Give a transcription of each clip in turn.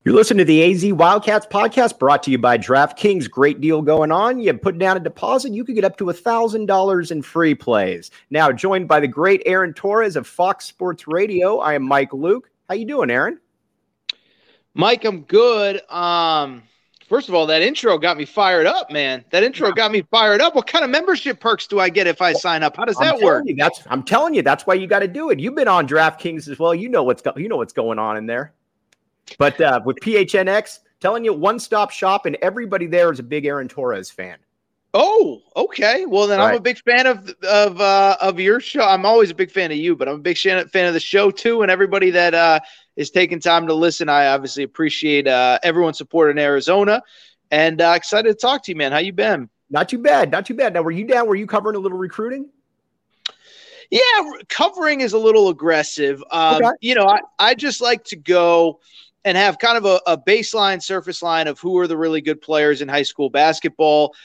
You're listening to the AZ Wildcats podcast brought to you by DraftKings. Great deal going on. You put down a deposit, you could get up to $1,000 in free plays. Now, joined by the great Aaron Torres of Fox Sports Radio, I am Mike Luke. How you doing, Aaron? Mike, I'm good. First of all, that intro got me fired up, man. Got me fired up. What kind of membership perks do I get if I sign up? How does that work? I'm telling you, that's why you got to do it. You've been on DraftKings as well. You know what's going on in there. But with PHNX, telling you, one-stop shop, and everybody there is a big Aaron Torres fan. Oh, okay. Well, then right. I'm a big fan of your show. I'm always a big fan of you, but I'm a big fan of the show too, and everybody that is taking time to listen. I obviously appreciate everyone's support in Arizona, and excited to talk to you, man. How you been? Not too bad. Now, were you down? Were you covering a little recruiting? Yeah, covering is a little aggressive. Okay. You know, I just like to go and have kind of a baseline, surface line of who are the really good players in high school basketball.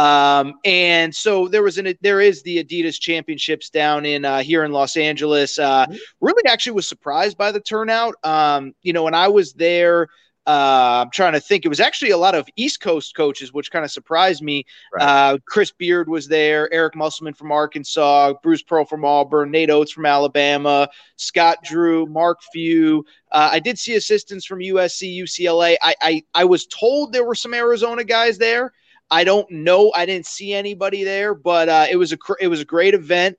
And so there is the Adidas Championships down in here in Los Angeles. Really actually was surprised by the turnout. You know, when I was there, I'm trying to think, it was actually a lot of East Coast coaches, which kind of surprised me. Right. Chris Beard was there, Eric Musselman from Arkansas, Bruce Pearl from Auburn, Nate Oates from Alabama, Scott Drew, Mark Few. I did see assistants from USC, UCLA. I was told there were some Arizona guys there. I don't know. I didn't see anybody there, but it was a great event.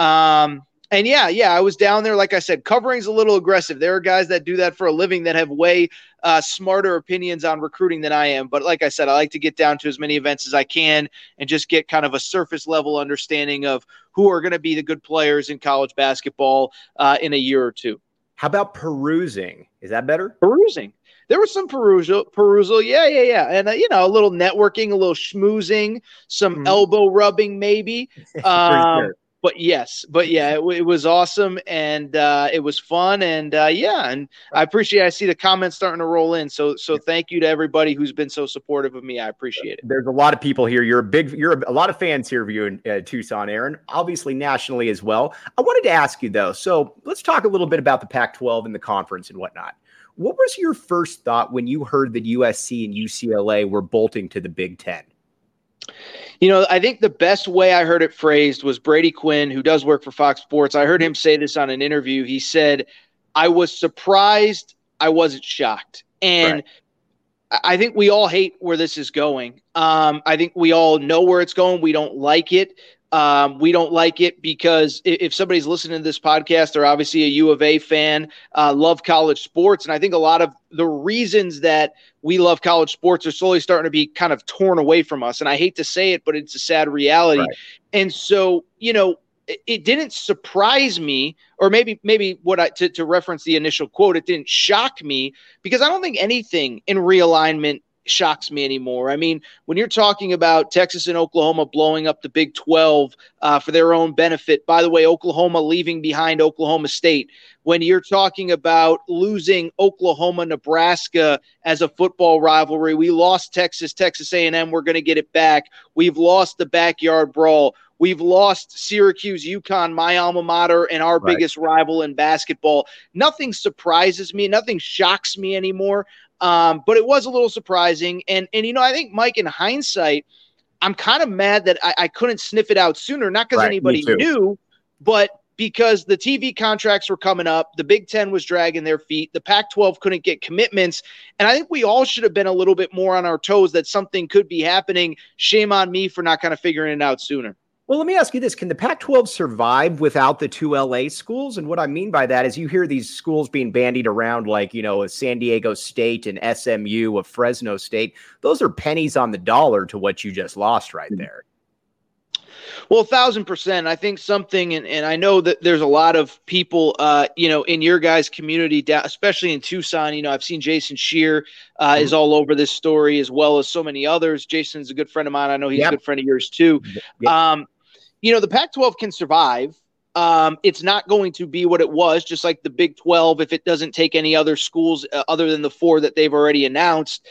And yeah, I was down there. Like I said, covering's a little aggressive. There are guys that do that for a living that have way smarter opinions on recruiting than I am. But like I said, I like to get down to as many events as I can and just get kind of a surface level understanding of who are going to be the good players in college basketball in a year or two. How about perusing? Is that better? Perusing. There was some perusal. Yeah. And, you know, a little networking, a little schmoozing, some elbow rubbing maybe. Sure. But yeah, it was awesome, and it was fun, and and I appreciate. I see the comments starting to roll in, so thank you to everybody who's been so supportive of me. I appreciate it. There's a lot of people here. You're a lot of fans here of you in Tucson, Aaron. Obviously nationally as well. I wanted to ask you though. So let's talk a little bit about the Pac-12 and the conference and whatnot. What was your first thought when you heard that USC and UCLA were bolting to the Big Ten? You know, I think the best way I heard it phrased was Brady Quinn, who does work for Fox Sports. I heard him say this on an interview. He said, I was surprised. I wasn't shocked. And right. I think we all hate where this is going. I think we all know where it's going. We don't like it. We don't like it because if somebody's listening to this podcast, they're obviously a U of A fan, love college sports. And I think a lot of the reasons that we love college sports are slowly starting to be kind of torn away from us. And I hate to say it, but it's a sad reality. Right. And so, you know, it didn't surprise me, or maybe to reference the initial quote, it didn't shock me because I don't think anything in realignment shocks me anymore. I mean, when you're talking about Texas and Oklahoma blowing up the Big 12 for their own benefit, by the way, Oklahoma leaving behind Oklahoma State, when you're talking about losing Oklahoma, Nebraska as a football rivalry, we lost Texas A&M, we're going to get it back. We've lost the backyard brawl. We've lost Syracuse, UConn, my alma mater, and our biggest rival in basketball. Nothing surprises me. Nothing shocks me anymore. But it was a little surprising. And you know, I think, Mike, in hindsight, I'm kind of mad that I couldn't sniff it out sooner, not because anybody knew, but because the TV contracts were coming up. The Big Ten was dragging their feet. The Pac-12 couldn't get commitments. And I think we all should have been a little bit more on our toes that something could be happening. Shame on me for not kind of figuring it out sooner. Well, let me ask you this. Can the Pac-12 survive without the two LA schools? And what I mean by that is you hear these schools being bandied around like, you know, a San Diego State and SMU, a Fresno State. Those are pennies on the dollar to what you just lost right there. Well, 1,000%. I think something, and I know that there's a lot of people, you know, in your guys' community, especially in Tucson. You know, I've seen Jason Shear is all over this story, as well as so many others. Jason's a good friend of mine. I know he's a good friend of yours too. You know, the Pac-12 can survive. It's not going to be what it was, just like the Big 12, if it doesn't take any other schools other than the four that they've already announced.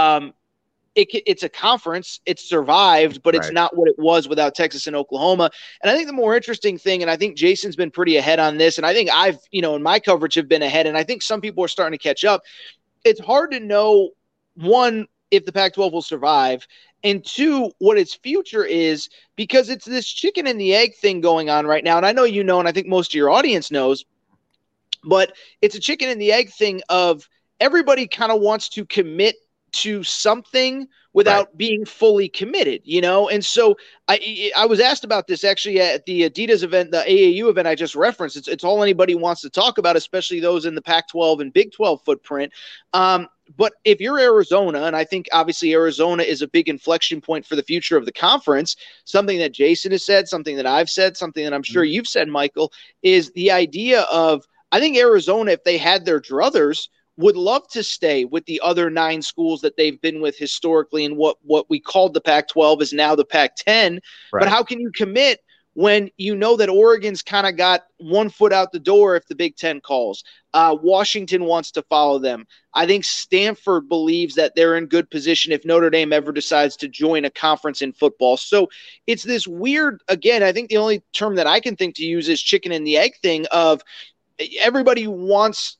It's a conference. It's survived, but it's not what it was without Texas and Oklahoma. And I think the more interesting thing, and I think Jason's been pretty ahead on this, and I think I've, you know, in my coverage have been ahead, and I think some people are starting to catch up, it's hard to know, one, if the Pac-12 will survive, and two, what its future is, because it's this chicken and the egg thing going on right now. And I know you know, and I think most of your audience knows, but it's a chicken and the egg thing of everybody kind of wants to commit to something without being fully committed, you know? And so I was asked about this actually at the Adidas event, the AAU event I just referenced. It's all anybody wants to talk about, especially those in the Pac-12 and Big 12 footprint. But if you're Arizona, and I think obviously Arizona is a big inflection point for the future of the conference, something that Jason has said, something that I've said, something that I'm sure you've said, Michael, is the idea of, I think Arizona, if they had their druthers, would love to stay with the other 9 schools that they've been with historically, and what we called the Pac-12 is now the Pac-10. Right. But how can you commit when you know that Oregon's kind of got one foot out the door if the Big Ten calls? Washington wants to follow them. I think Stanford believes that they're in good position if Notre Dame ever decides to join a conference in football. So it's this weird, again, I think the only term that I can think to use is chicken and the egg thing of, everybody wants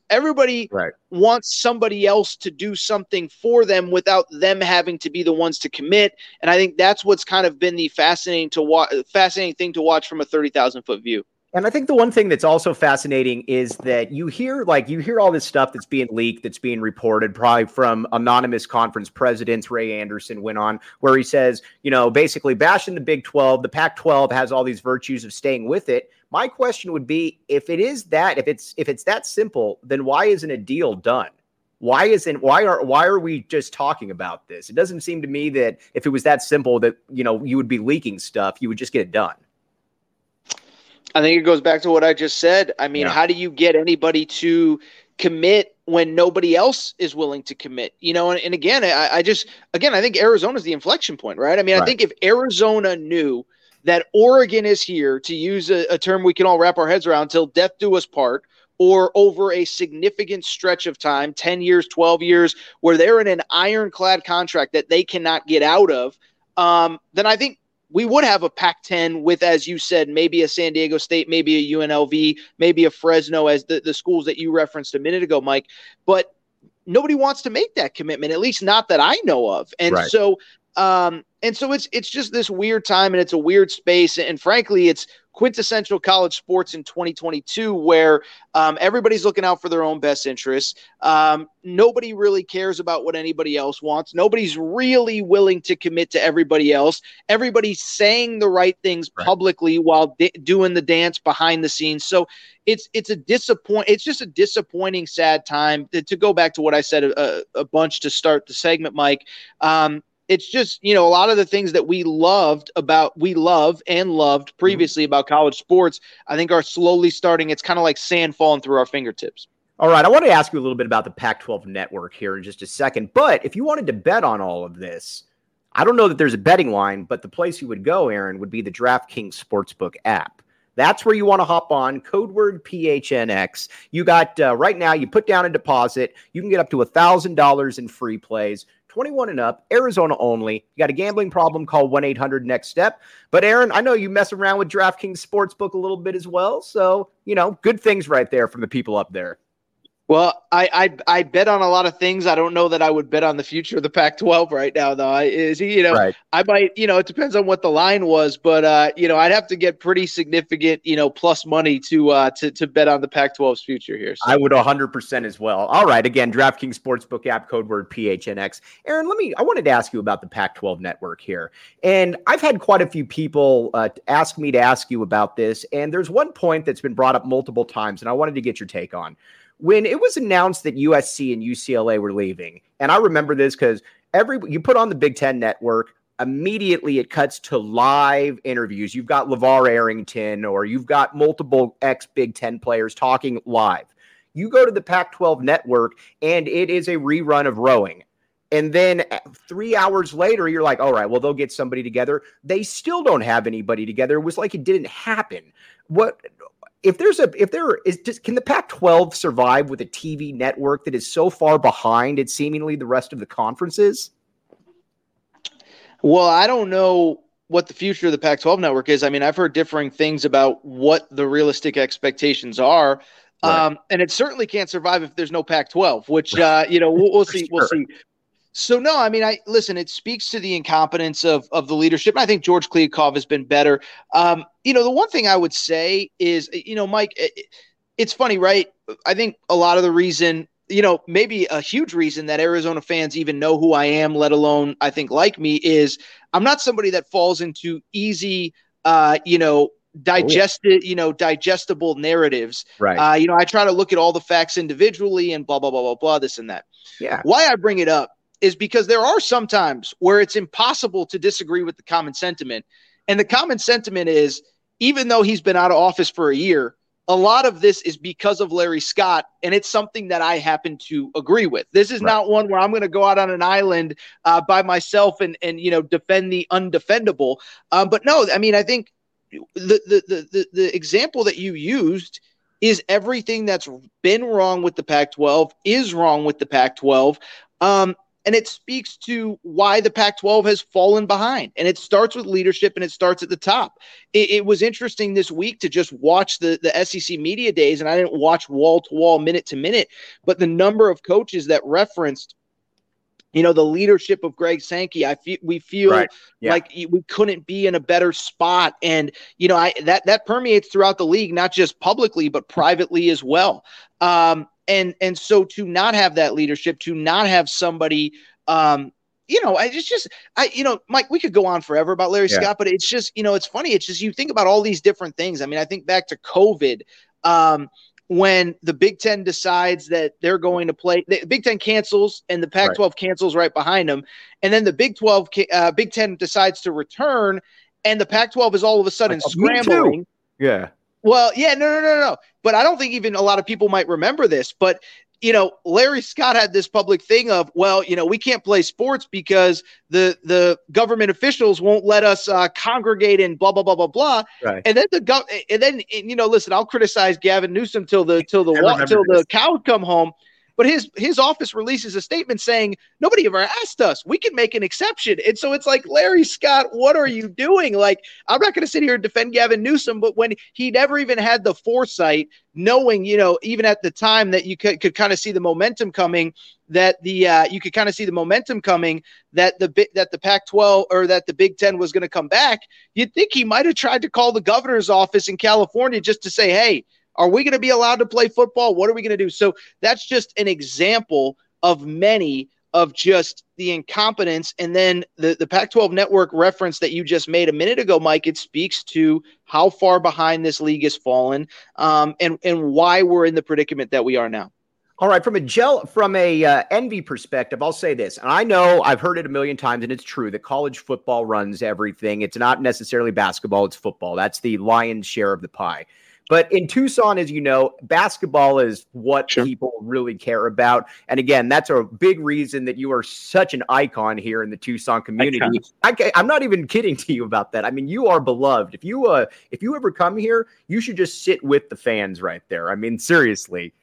somebody else to do something for them without them having to be the ones to commit. And I think that's what's kind of been the fascinating thing to watch from a 30,000-foot view. And I think the one thing that's also fascinating is that you hear all this stuff that's being leaked, that's being reported, probably from anonymous conference presidents. Ray Anderson went on where he says, basically bashing the Big 12. The Pac-12 has all these virtues of staying with it. My question would be, if it's that simple, then why isn't a deal done? Why are we just talking about this? It doesn't seem to me that if it was that simple that, you would be leaking stuff, you would just get it done. I think it goes back to what I just said. I mean, How do you get anybody to commit when nobody else is willing to commit? And again, I think Arizona's the inflection point, right? I mean, I think if Arizona knew that Oregon is here, to use a term we can all wrap our heads around, till death do us part, or over a significant stretch of time, 10 years, 12 years, where they're in an ironclad contract that they cannot get out of, then I think we would have a Pac-10 with, as you said, maybe a San Diego State, maybe a UNLV, maybe a Fresno, as the schools that you referenced a minute ago, Mike. But nobody wants to make that commitment, at least not that I know of. And so it's just this weird time, and it's a weird space. And frankly, it's quintessential college sports in 2022, where everybody's looking out for their own best interests. Nobody really cares about what anybody else wants. Nobody's really willing to commit to everybody else. Everybody's saying the right things publicly while doing the dance behind the scenes. So it's just a disappointing, sad time. To go back to what I said a bunch to start the segment, Mike. It's just, a lot of the things that we loved previously about college sports, I think are slowly starting. It's kind of like sand falling through our fingertips. All right. I want to ask you a little bit about the Pac-12 network here in just a second. But if you wanted to bet on all of this, I don't know that there's a betting line, but the place you would go, Aaron, would be the DraftKings Sportsbook app. That's where you want to hop on, code word PHNX. You got right now, you put down a deposit. You can get up to $1,000 in free plays. 21 and up, Arizona only. You got a gambling problem, call 1-800-NEXT-STEP. But Aaron, I know you mess around with DraftKings Sportsbook a little bit as well. So, good things right there from the people up there. Well, I bet on a lot of things. I don't know that I would bet on the future of the Pac-12 right now, though. I might, it depends on what the line was, but I'd have to get pretty significant, plus money to bet on the Pac-12's future here. So. I would 100% as well. All right, again, DraftKings Sportsbook app, code word PHNX. Aaron, I wanted to ask you about the Pac-12 network here, and I've had quite a few people ask me to ask you about this, and there's one point that's been brought up multiple times, and I wanted to get your take on. When it was announced that USC and UCLA were leaving, and I remember this because you put on the Big Ten network, immediately it cuts to live interviews. You've got LeVar Arrington, or you've got multiple ex-Big Ten players talking live. You go to the Pac-12 network, and it is a rerun of rowing. And then 3 hours later, you're like, all right, well, they'll get somebody together. They still don't have anybody together. It was like it didn't happen. Can the Pac-12 survive with a TV network that is so far behind it's seemingly the rest of the conferences? Well, I don't know what the future of the Pac-12 network is. I mean, I've heard differing things about what the realistic expectations are. Right. And it certainly can't survive if there's no Pac-12, which, we'll see. We'll see. So, no, I mean, listen, it speaks to the incompetence of the leadership. I think George Kliavkoff has been better. The one thing I would say is, Mike, it's funny, right? I think a lot of the reason, maybe a huge reason that Arizona fans even know who I am, let alone, I think, like me, is I'm not somebody that falls into easy, digestible narratives. Right. I try to look at all the facts individually and blah, blah, blah, blah, blah, this and that. Yeah. Why I bring it up is because there are some times where it's impossible to disagree with the common sentiment. And the common sentiment is, even though he's been out of office for a year, a lot of this is because of Larry Scott, and it's something that I happen to agree with. This is not one where I'm going to go out on an island by myself and defend the undefendable. But no, I mean, I think the example that you used is everything that's been wrong with the Pac-12 is wrong with the Pac-12. And it speaks to why the Pac-12 has fallen behind. And it starts with leadership, and it starts at the top. It was interesting this week to just watch the SEC media days, and I didn't watch wall-to-wall, minute-to-minute, but the number of coaches that referenced, the leadership of Greg Sankey. We feel like we couldn't be in a better spot. And, that permeates throughout the league, not just publicly, but privately as well. And so to not have that leadership, to not have somebody, Mike, we could go on forever about Larry Scott, but it's just, it's funny. It's just, you think about all these different things. I mean, I think back to COVID, when the Big Ten decides that they're going to play, the Big Ten cancels and the Pac-12 cancels right behind them. And then the Big Ten decides to return, and the Pac-12 is all of a sudden scrambling. Yeah. Well, yeah, no. But I don't think even a lot of people might remember this. But, Larry Scott had this public thing of, we can't play sports because the government officials won't let us congregate and blah, blah, blah, blah, blah. Right. And then listen, I'll criticize Gavin Newsom till the cows come home. But his office releases a statement saying, nobody ever asked us. We can make an exception. And so it's like, Larry Scott, what are you doing? Like, I'm not going to sit here and defend Gavin Newsom, but when he never even had the foresight, knowing, even at the time that you could kind of see the momentum coming, that the Pac-12 or that the Big Ten was going to come back, you'd think he might have tried to call the governor's office in California just to say, hey, are we going to be allowed to play football? What are we going to do? So that's just an example of many of just the incompetence. And then the Pac-12 network reference that you just made a minute ago, Mike, it speaks to how far behind this league has fallen, and why we're in the predicament that we are now. All right, from a envy perspective, I'll say this, and I know I've heard it a million times, and it's true that college football runs everything. It's not necessarily basketball; it's football. That's the lion's share of the pie. But in Tucson, as you know, basketball is what people really care about. And again, that's a big reason that you are such an icon here in the Tucson community. I'm not even kidding to you about that. I mean, you are beloved. If you ever come here, you should just sit with the fans right there. I mean, seriously,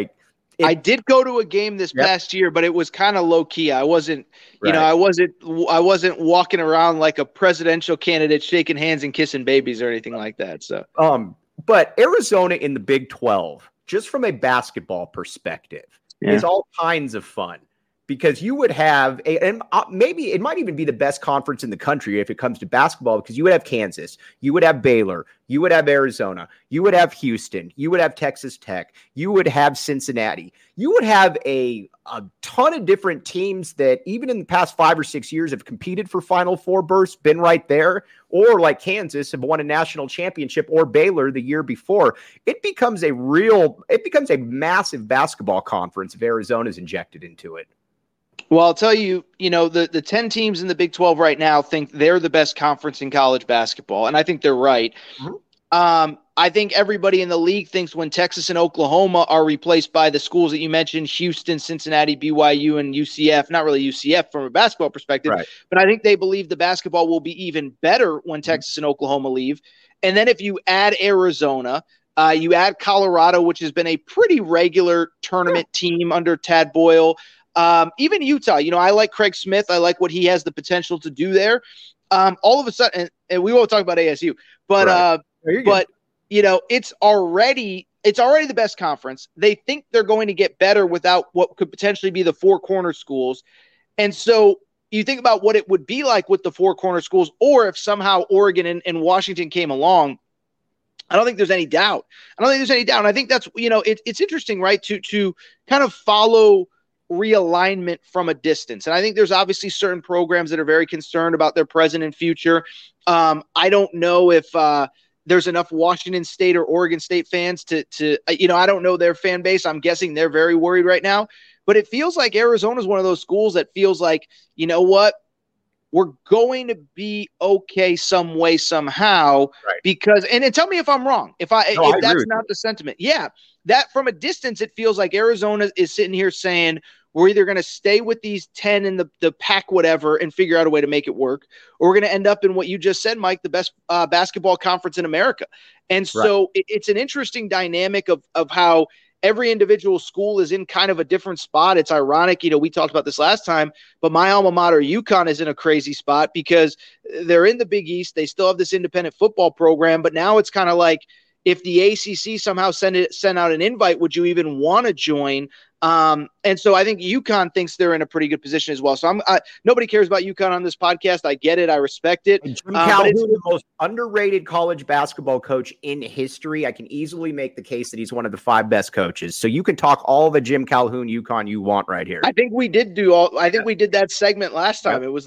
I did go to a game this past year, but it was kind of low key. I wasn't, I wasn't walking around like a presidential candidate, shaking hands and kissing babies or anything like that. So, But Arizona in the Big 12, just from a basketball perspective, is all kinds of fun, because you would have and maybe it might even be the best conference in the country if it comes to basketball, because you would have Kansas, you would have Baylor, you would have Arizona, you would have Houston, you would have Texas Tech, you would have Cincinnati, you would have a ton of different teams that even in the past 5 or 6 years have competed for Final Four berths, been right there, or like Kansas have won a national championship, or Baylor the year before. It becomes a massive basketball conference if Arizona's injected into it. Well, I'll tell you, the 10 teams in the Big 12 right now think they're the best conference in college basketball, and I think they're right. Mm-hmm. I think everybody in the league thinks when Texas and Oklahoma are replaced by the schools that you mentioned, Houston, Cincinnati, BYU, and UCF, not really UCF from a basketball perspective, but I think they believe the basketball will be even better when Texas and Oklahoma leave. And then if you add Arizona, you add Colorado, which has been a pretty regular tournament team under Tad Boyle, even Utah, I like Craig Smith. I like what he has the potential to do there. All of a sudden, and we won't talk about ASU, but it's already it's already the best conference. They think they're going to get better without what could potentially be the four corner schools. And so you think about what it would be like with the four corner schools, or if somehow Oregon and Washington came along. I don't think there's any doubt. And I think that's, it's interesting, right, to kind of follow realignment from a distance. And I think there's obviously certain programs that are very concerned about their present and future. I don't know if there's enough Washington State or Oregon State fans to I don't know their fan base. I'm guessing they're very worried right now. But it feels like Arizona is one of those schools that feels like, you know what? We're going to be okay some way, somehow, right? Because, and tell me if I'm wrong, if that's not the sentiment. Yeah, that from a distance, it feels like Arizona is sitting here saying, we're either going to stay with these 10 in the pack, whatever, and figure out a way to make it work, or we're going to end up in what you just said, Mike, the best basketball conference in America. And so it's an interesting dynamic of how every individual school is in kind of a different spot. It's ironic, we talked about this last time, but my alma mater, UConn, is in a crazy spot because they're in the Big East. They still have this independent football program, but now it's kind of like, if the ACC somehow sent out an invite, would you even want to join? And so I think UConn thinks they're in a pretty good position as well. So nobody cares about UConn on this podcast. I get it. I respect it. Jim Calhoun, the most underrated college basketball coach in history. I can easily make the case that he's one of the 5 best coaches. So you can talk all the Jim Calhoun UConn you want right here. I think we did we did that segment last time. Yep. It was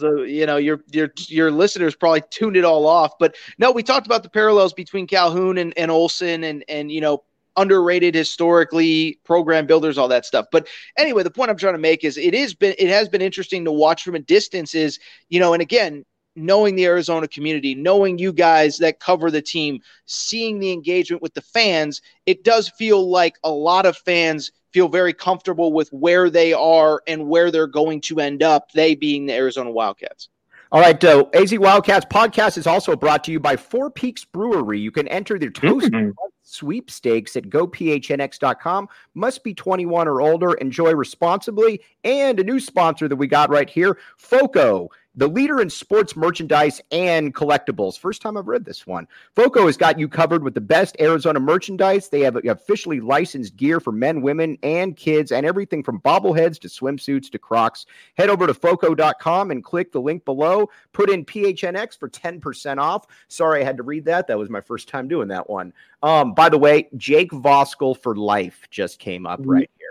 your listeners probably tuned it all off, but no, we talked about the parallels between Calhoun and Olson and underrated historically, program builders, all that stuff. But anyway, the point I'm trying to make is it has been interesting to watch from a distance is, and again, knowing the Arizona community, knowing you guys that cover the team, seeing the engagement with the fans, it does feel like a lot of fans feel very comfortable with where they are and where they're going to end up, they being the Arizona Wildcats. All right, AZ Wildcats podcast is also brought to you by Four Peaks Brewery. You can enter their Toast sweepstakes at gophnx.com. Must be 21 or older. Enjoy responsibly. And a new sponsor that we got right here, FOCO, the leader in sports merchandise and collectibles. First time I've read this one. FOCO has got you covered with the best Arizona merchandise. They have officially licensed gear for men, women, and kids, and everything from bobbleheads to swimsuits to Crocs. Head over to FOCO.com and click the link below. Put in PHNX for 10% off. Sorry, I had to read that. That was my first time doing that one. By the way, Jake Voskuhl for life just came up right here.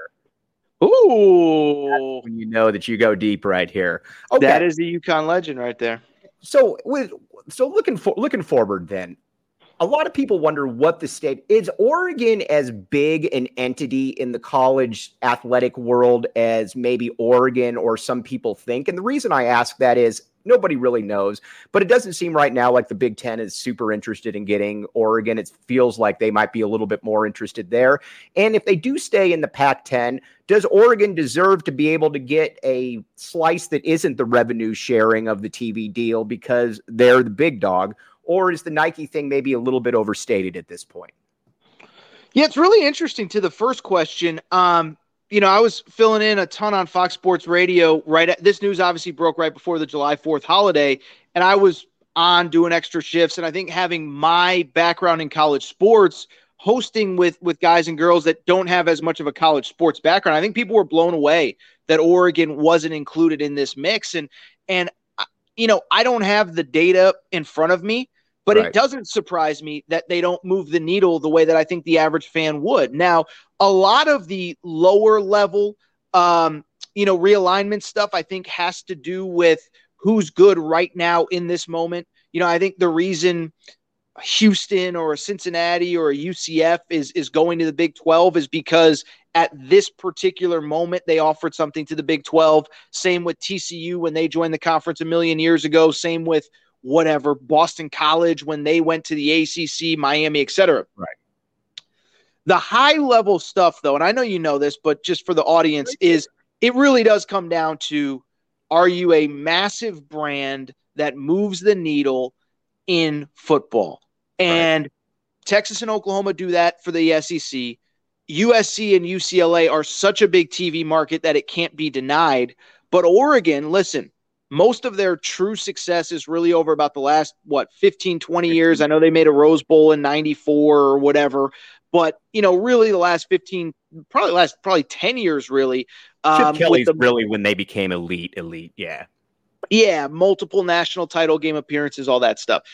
Ooh. That's when you know that you go deep right here. Okay. That is the UConn legend right there. So looking forward then, a lot of people wonder what the state is. Oregon as big an entity in the college athletic world as maybe Oregon or some people think? And the reason I ask that is nobody really knows, but it doesn't seem right now like the Big Ten is super interested in getting Oregon. It feels like they might be a little bit more interested there. And if they do stay in the Pac-10, does Oregon deserve to be able to get a slice that isn't the revenue sharing of the TV deal because they're the big dog? Or is the Nike thing maybe a little bit overstated at this point? Yeah, it's really interesting to the first question. I was filling in a ton on Fox Sports Radio. This news obviously broke right before the July 4th holiday, and I was on doing extra shifts. And I think having my background in college sports, hosting with guys and girls that don't have as much of a college sports background, I think people were blown away that Oregon wasn't included in this mix. And I don't have the data in front of me, but It doesn't surprise me that they don't move the needle the way that I think the average fan would. Now, a lot of the lower level, realignment stuff, I think has to do with who's good right now in this moment. I think the reason Houston or a Cincinnati or a UCF is going to the Big 12 is because at this particular moment, they offered something to the Big 12. Same with TCU when they joined the conference a million years ago. Same with Boston College when they went to the ACC, Miami, etc. Right. The high level stuff, though, and I know you know this, but just for the audience, is it really does come down to, are you a massive brand that moves the needle in football? And Texas and Oklahoma do that for the SEC. USC and UCLA are such a big TV market that it can't be denied. But Oregon, listen, most of their true success is really over about the last, 15, 20 years. I know they made a Rose Bowl in 94 or whatever. But, really the last 15, probably 10 years, really. Chip Kelly's really when they became elite. Yeah. Yeah. Multiple national title game appearances, all that stuff.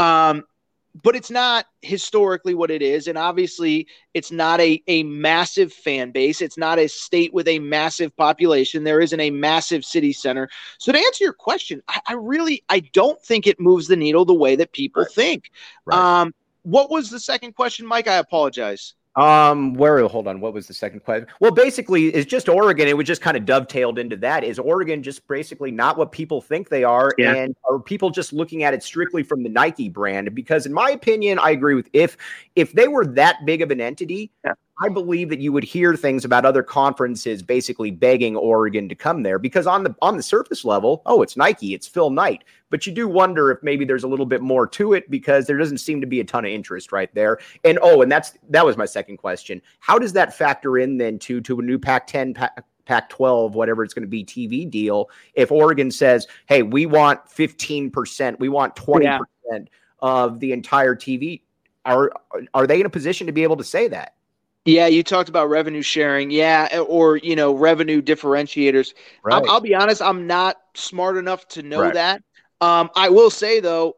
But it's not historically what it is. And obviously it's not a massive fan base. It's not a state with a massive population. There isn't a massive city center. So to answer your question, I don't think it moves the needle the way that people think. Right. What was the second question, Mike? I apologize. Hold on. What was the second question? Well, basically it's just Oregon. It was just kind of dovetailed into that. Is Oregon just basically not what people think they are? Yeah. And are people just looking at it strictly from the Nike brand? Because in my opinion, I agree with if they were that big of an entity, yeah. I believe that you would hear things about other conferences basically begging Oregon to come there because on the surface level, it's Nike, it's Phil Knight. But you do wonder if maybe there's a little bit more to it because there doesn't seem to be a ton of interest right there. And that was my second question. How does that factor in then to a new Pac-10, Pac-12, whatever it's going to be, TV deal? If Oregon says, hey, we want 15%, we want 20% of the entire TV, are they in a position to be able to say that? Yeah, you talked about revenue sharing. Yeah, or, revenue differentiators. Right. I'll be honest, I'm not smart enough to know that. I will say, though,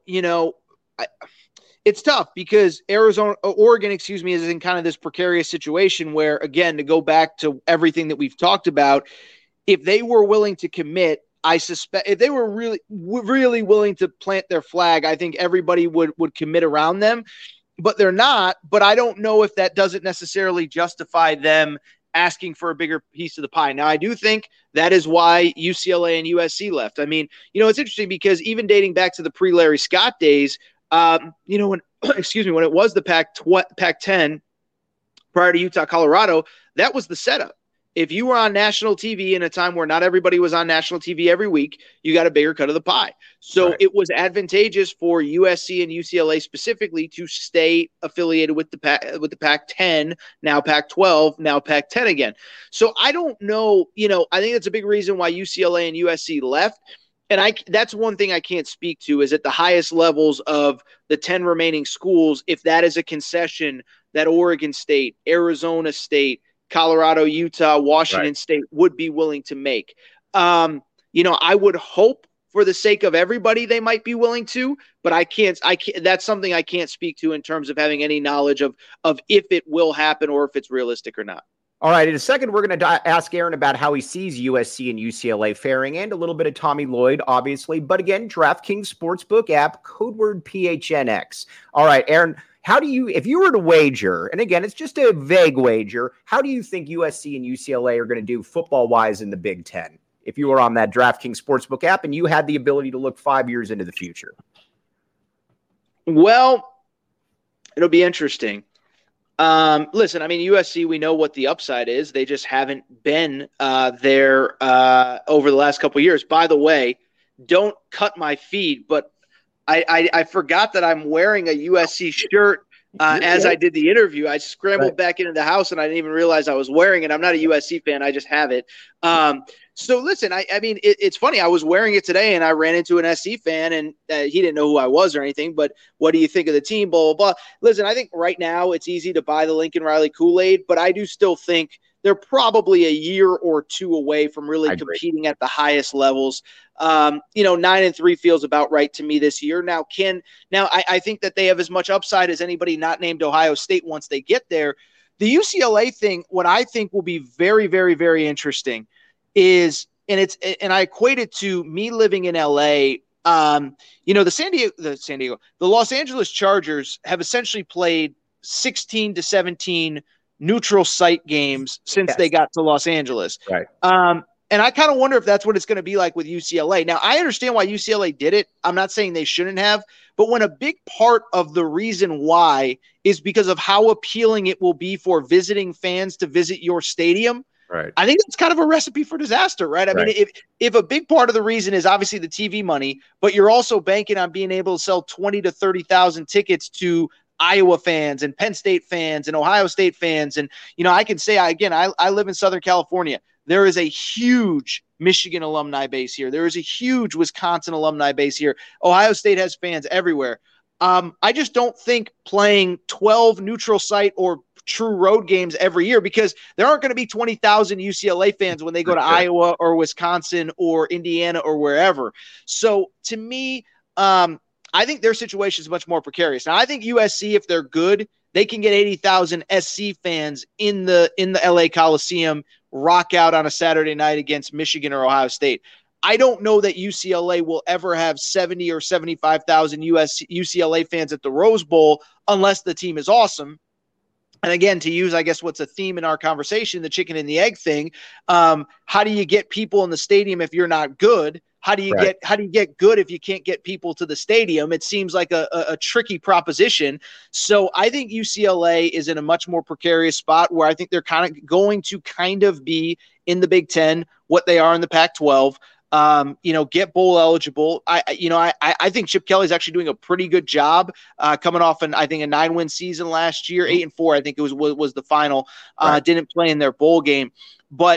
it's tough because Oregon, is in kind of this precarious situation where, again, to go back to everything that we've talked about, if they were willing to commit, I suspect if they were really, really willing to plant their flag, I think everybody would commit around them. But they're not. But I don't know if that doesn't necessarily justify them asking for a bigger piece of the pie. Now, I do think that is why UCLA and USC left. I mean, it's interesting because even dating back to the pre-Larry Scott days, when it was the Pac-10 prior to Utah, Colorado, that was the setup. If you were on national TV in a time where not everybody was on national TV every week, you got a bigger cut of the pie. So It was advantageous for USC and UCLA specifically to stay affiliated with the Pac-10, now Pac-12, now Pac-10 again. So I don't know, I think that's a big reason why UCLA and USC left. And that's one thing I can't speak to is at the highest levels of the 10 remaining schools, if that is a concession that Oregon State, Arizona State, Colorado, Utah, Washington State would be willing to make. I would hope for the sake of everybody they might be willing to, but I can't. That's something I can't speak to in terms of having any knowledge of if it will happen or if it's realistic or not. All right, in a second, we're going to ask Aaron about how he sees USC and UCLA faring and a little bit of Tommy Lloyd, obviously. But again, DraftKings Sportsbook app, code word PHNX. All right, Aaron, if you were to wager, and again, it's just a vague wager, how do you think USC and UCLA are going to do football-wise in the Big Ten? If you were on that DraftKings Sportsbook app and you had the ability to look 5 years into the future. Well, it'll be interesting. Listen, I mean, USC, we know what the upside is. They just haven't been there over the last couple of years. By the way, don't cut my feed, but I forgot that I'm wearing a USC shirt as I did the interview. I scrambled back into the house and I didn't even realize I was wearing it. I'm not a USC fan. I just have it. So listen, I mean, it's funny. I was wearing it today and I ran into an SC fan and he didn't know who I was or anything, but what do you think of the team? Blah, blah, blah. Listen, I think right now it's easy to buy the Lincoln Riley Kool-Aid, but I do still think they're probably a year or two away from really competing at the highest levels. 9-3 feels about right to me this year. Now, I think that they have as much upside as anybody not named Ohio State once they get there. The UCLA thing, what I think will be very, very, very interesting is, and I equate it to me living in LA. The Los Angeles Chargers have essentially played 16 to 17 neutral site games since they got to Los Angeles. Right. And I kind of wonder if that's what it's going to be like with UCLA. Now, I understand why UCLA did it. I'm not saying they shouldn't have, but when a big part of the reason why is because of how appealing it will be for visiting fans to visit your stadium, right? I think it's kind of a recipe for disaster, right? I mean, if a big part of the reason is obviously the TV money, but you're also banking on being able to sell 20 to 30,000 tickets to Iowa fans and Penn State fans and Ohio State fans. And, I can say, I live in Southern California. There is a huge Michigan alumni base here. There is a huge Wisconsin alumni base here. Ohio State has fans everywhere. I just don't think playing 12 neutral site or true road games every year, because there aren't going to be 20,000 UCLA fans when they go to Iowa or Wisconsin or Indiana or wherever. So to me, I think their situation is much more precarious. Now, I think USC, if they're good, they can get 80,000 SC fans in the LA Coliseum, rock out on a Saturday night against Michigan or Ohio State. I don't know that UCLA will ever have 70 or 75,000 UCLA fans at the Rose Bowl unless the team is awesome. And again, to use, I guess, what's a theme in our conversation, the chicken and the egg thing, how do you get people in the stadium if you're not good? How do you get good if you can't get people to the stadium? It seems like a tricky proposition. So I think UCLA is in a much more precarious spot where I think they're kind of going to be in the Big Ten, what they are in the Pac-12. Get bowl eligible. I think Chip Kelly's actually doing a pretty good job coming off a 9-win season last year, 8-4. I think it was the final. Didn't play in their bowl game, but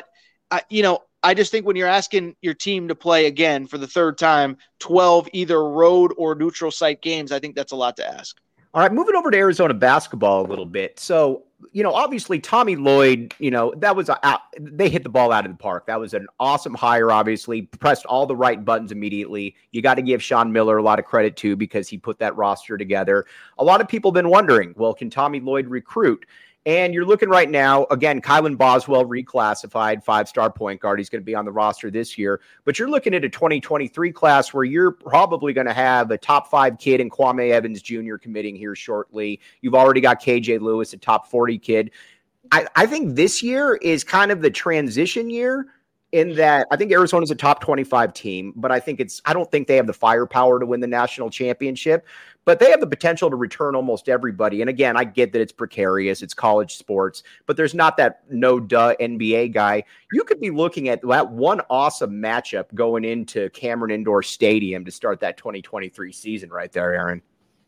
I just think when you're asking your team to play again for the third time, 12 either road or neutral site games, I think that's a lot to ask. All right, moving over to Arizona basketball a little bit. So, obviously Tommy Lloyd, that was they hit the ball out of the park. That was an awesome hire, obviously, pressed all the right buttons immediately. You got to give Sean Miller a lot of credit too, because he put that roster together. A lot of people have been wondering, well, can Tommy Lloyd recruit? And you're looking right now, again, Kylan Boswell reclassified, 5-star point guard. He's going to be on the roster this year. But you're looking at a 2023 class where you're probably going to have a top 5 kid in Kwame Evans Jr. committing here shortly. You've already got KJ Lewis, a top 40 kid. I think this year is kind of the transition year in that I think Arizona's a top 25 team, but I don't think they have the firepower to win the national championship, but they have the potential to return almost everybody. And again, I get that it's precarious, it's college sports, but there's not that no-duh NBA guy. You could be looking at that one awesome matchup going into Cameron Indoor Stadium to start that 2023 season right there, Aaron.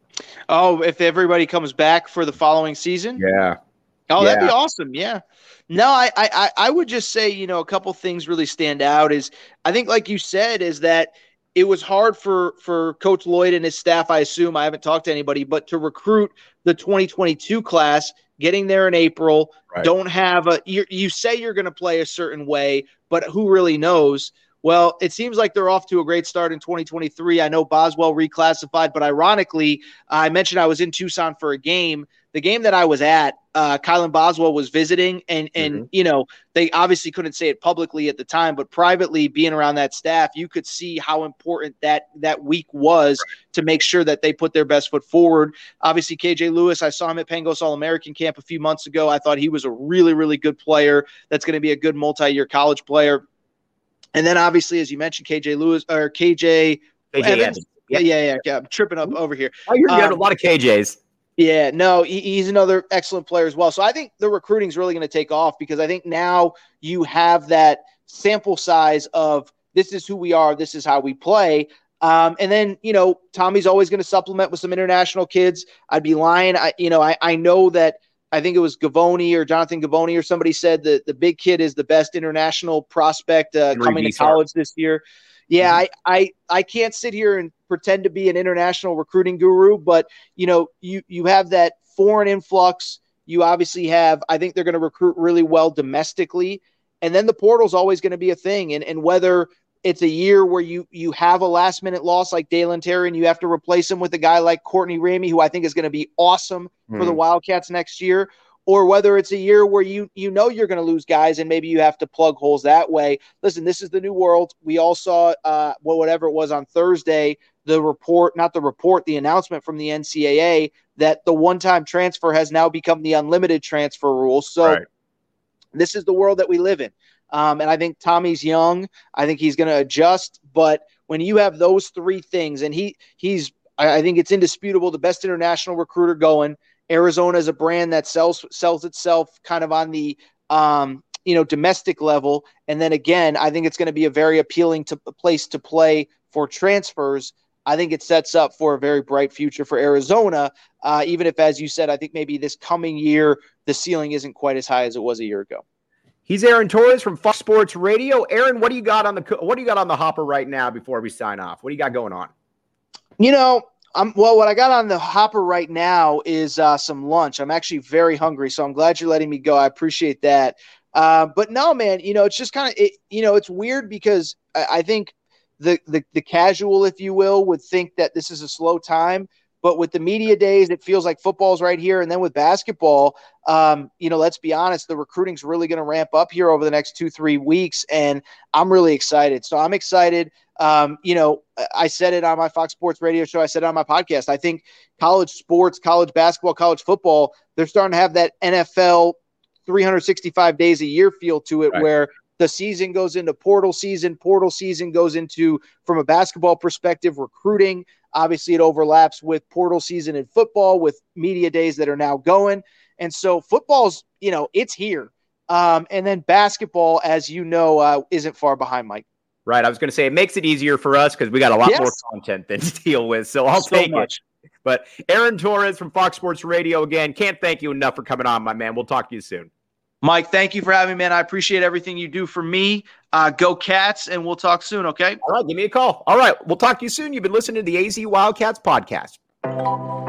Oh, if everybody comes back for the following season? Yeah. Oh, that'd be awesome. Yeah. No, I would just say, a couple things really stand out is I think, like you said, is that it was hard for Coach Lloyd and his staff, I assume, I haven't talked to anybody, but to recruit the 2022 class, getting there in April, don't have you say you're going to play a certain way, but who really knows? Well, it seems like they're off to a great start in 2023. I know Boswell reclassified, but ironically, I mentioned I was in Tucson for a game. The game that I was at, Kylan Boswell was visiting, and they obviously couldn't say it publicly at the time, but privately, being around that staff, you could see how important that week was to make sure that they put their best foot forward. Obviously, KJ Lewis, I saw him at Pangos All-American Camp a few months ago. I thought he was a really, really good player. That's going to be a good multi-year college player. And then obviously, as you mentioned, KJ Evans. Yeah. I'm tripping up over here. Oh, you have a lot of KJs. Yeah, no, he's another excellent player as well. So I think the recruiting is really going to take off because I think now you have that sample size of this is who we are, this is how we play. And then, Tommy's always going to supplement with some international kids. I'd be lying. I know that I think it was Gavoni or Jonathan Gavoni or somebody said that the big kid is the best international prospect coming to college this year. Yeah, I can't sit here and pretend to be an international recruiting guru, but you have that foreign influx. You obviously have, I think they're going to recruit really well domestically, and then the portal's always going to be a thing. And whether it's a year where you have a last minute loss like Dalen Terry and you have to replace him with a guy like Courtney Ramey, who I think is going to be awesome for the Wildcats next year, or whether it's a year where you're going to lose guys and maybe you have to plug holes that way. Listen, this is the new world. We all saw whatever it was on Thursday, the announcement from the NCAA that the one-time transfer has now become the unlimited transfer rule. So This is the world that we live in. And I think Tommy's young. I think he's going to adjust. But when you have those three things, and I think it's indisputable, the best international recruiter going. Arizona is a brand that sells itself kind of on the domestic level. And then again, I think it's going to be a very appealing place to play for transfers. I think it sets up for a very bright future for Arizona, even if, as you said, I think maybe this coming year the ceiling isn't quite as high as it was a year ago. He's Aaron Torres from Fox Sports Radio. Aaron, what do you got on the hopper right now before we sign off? What do you got going on? Well, what I got on the hopper right now is some lunch. I'm actually very hungry, so I'm glad you're letting me go. I appreciate that. But no, man, it's just kind of it's weird because I think the casual, if you will, would think that this is a slow time. But with the media days, it feels like football's right here. And then with basketball, let's be honest, the recruiting's really going to ramp up here over the next 2-3 weeks. And I'm really excited. So I'm excited. I said it on my Fox Sports radio show. I said it on my podcast. I think college sports, college basketball, college football, they're starting to have that NFL 365 days a year feel to it, right, where the season goes into portal season goes into, from a basketball perspective, recruiting. Obviously, it overlaps with portal season in football with media days that are now going. And so football's, it's here. And then basketball, as you know, isn't far behind, Mike. Right. I was going to say it makes it easier for us because we got a lot more content than to deal with. So I'll take it. But Aaron Torres from Fox Sports Radio, again, can't thank you enough for coming on, my man. We'll talk to you soon. Mike, thank you for having me, man. I appreciate everything you do for me. Go Cats, and we'll talk soon, okay? All right, give me a call. All right, we'll talk to you soon. You've been listening to the AZ Wildcats podcast.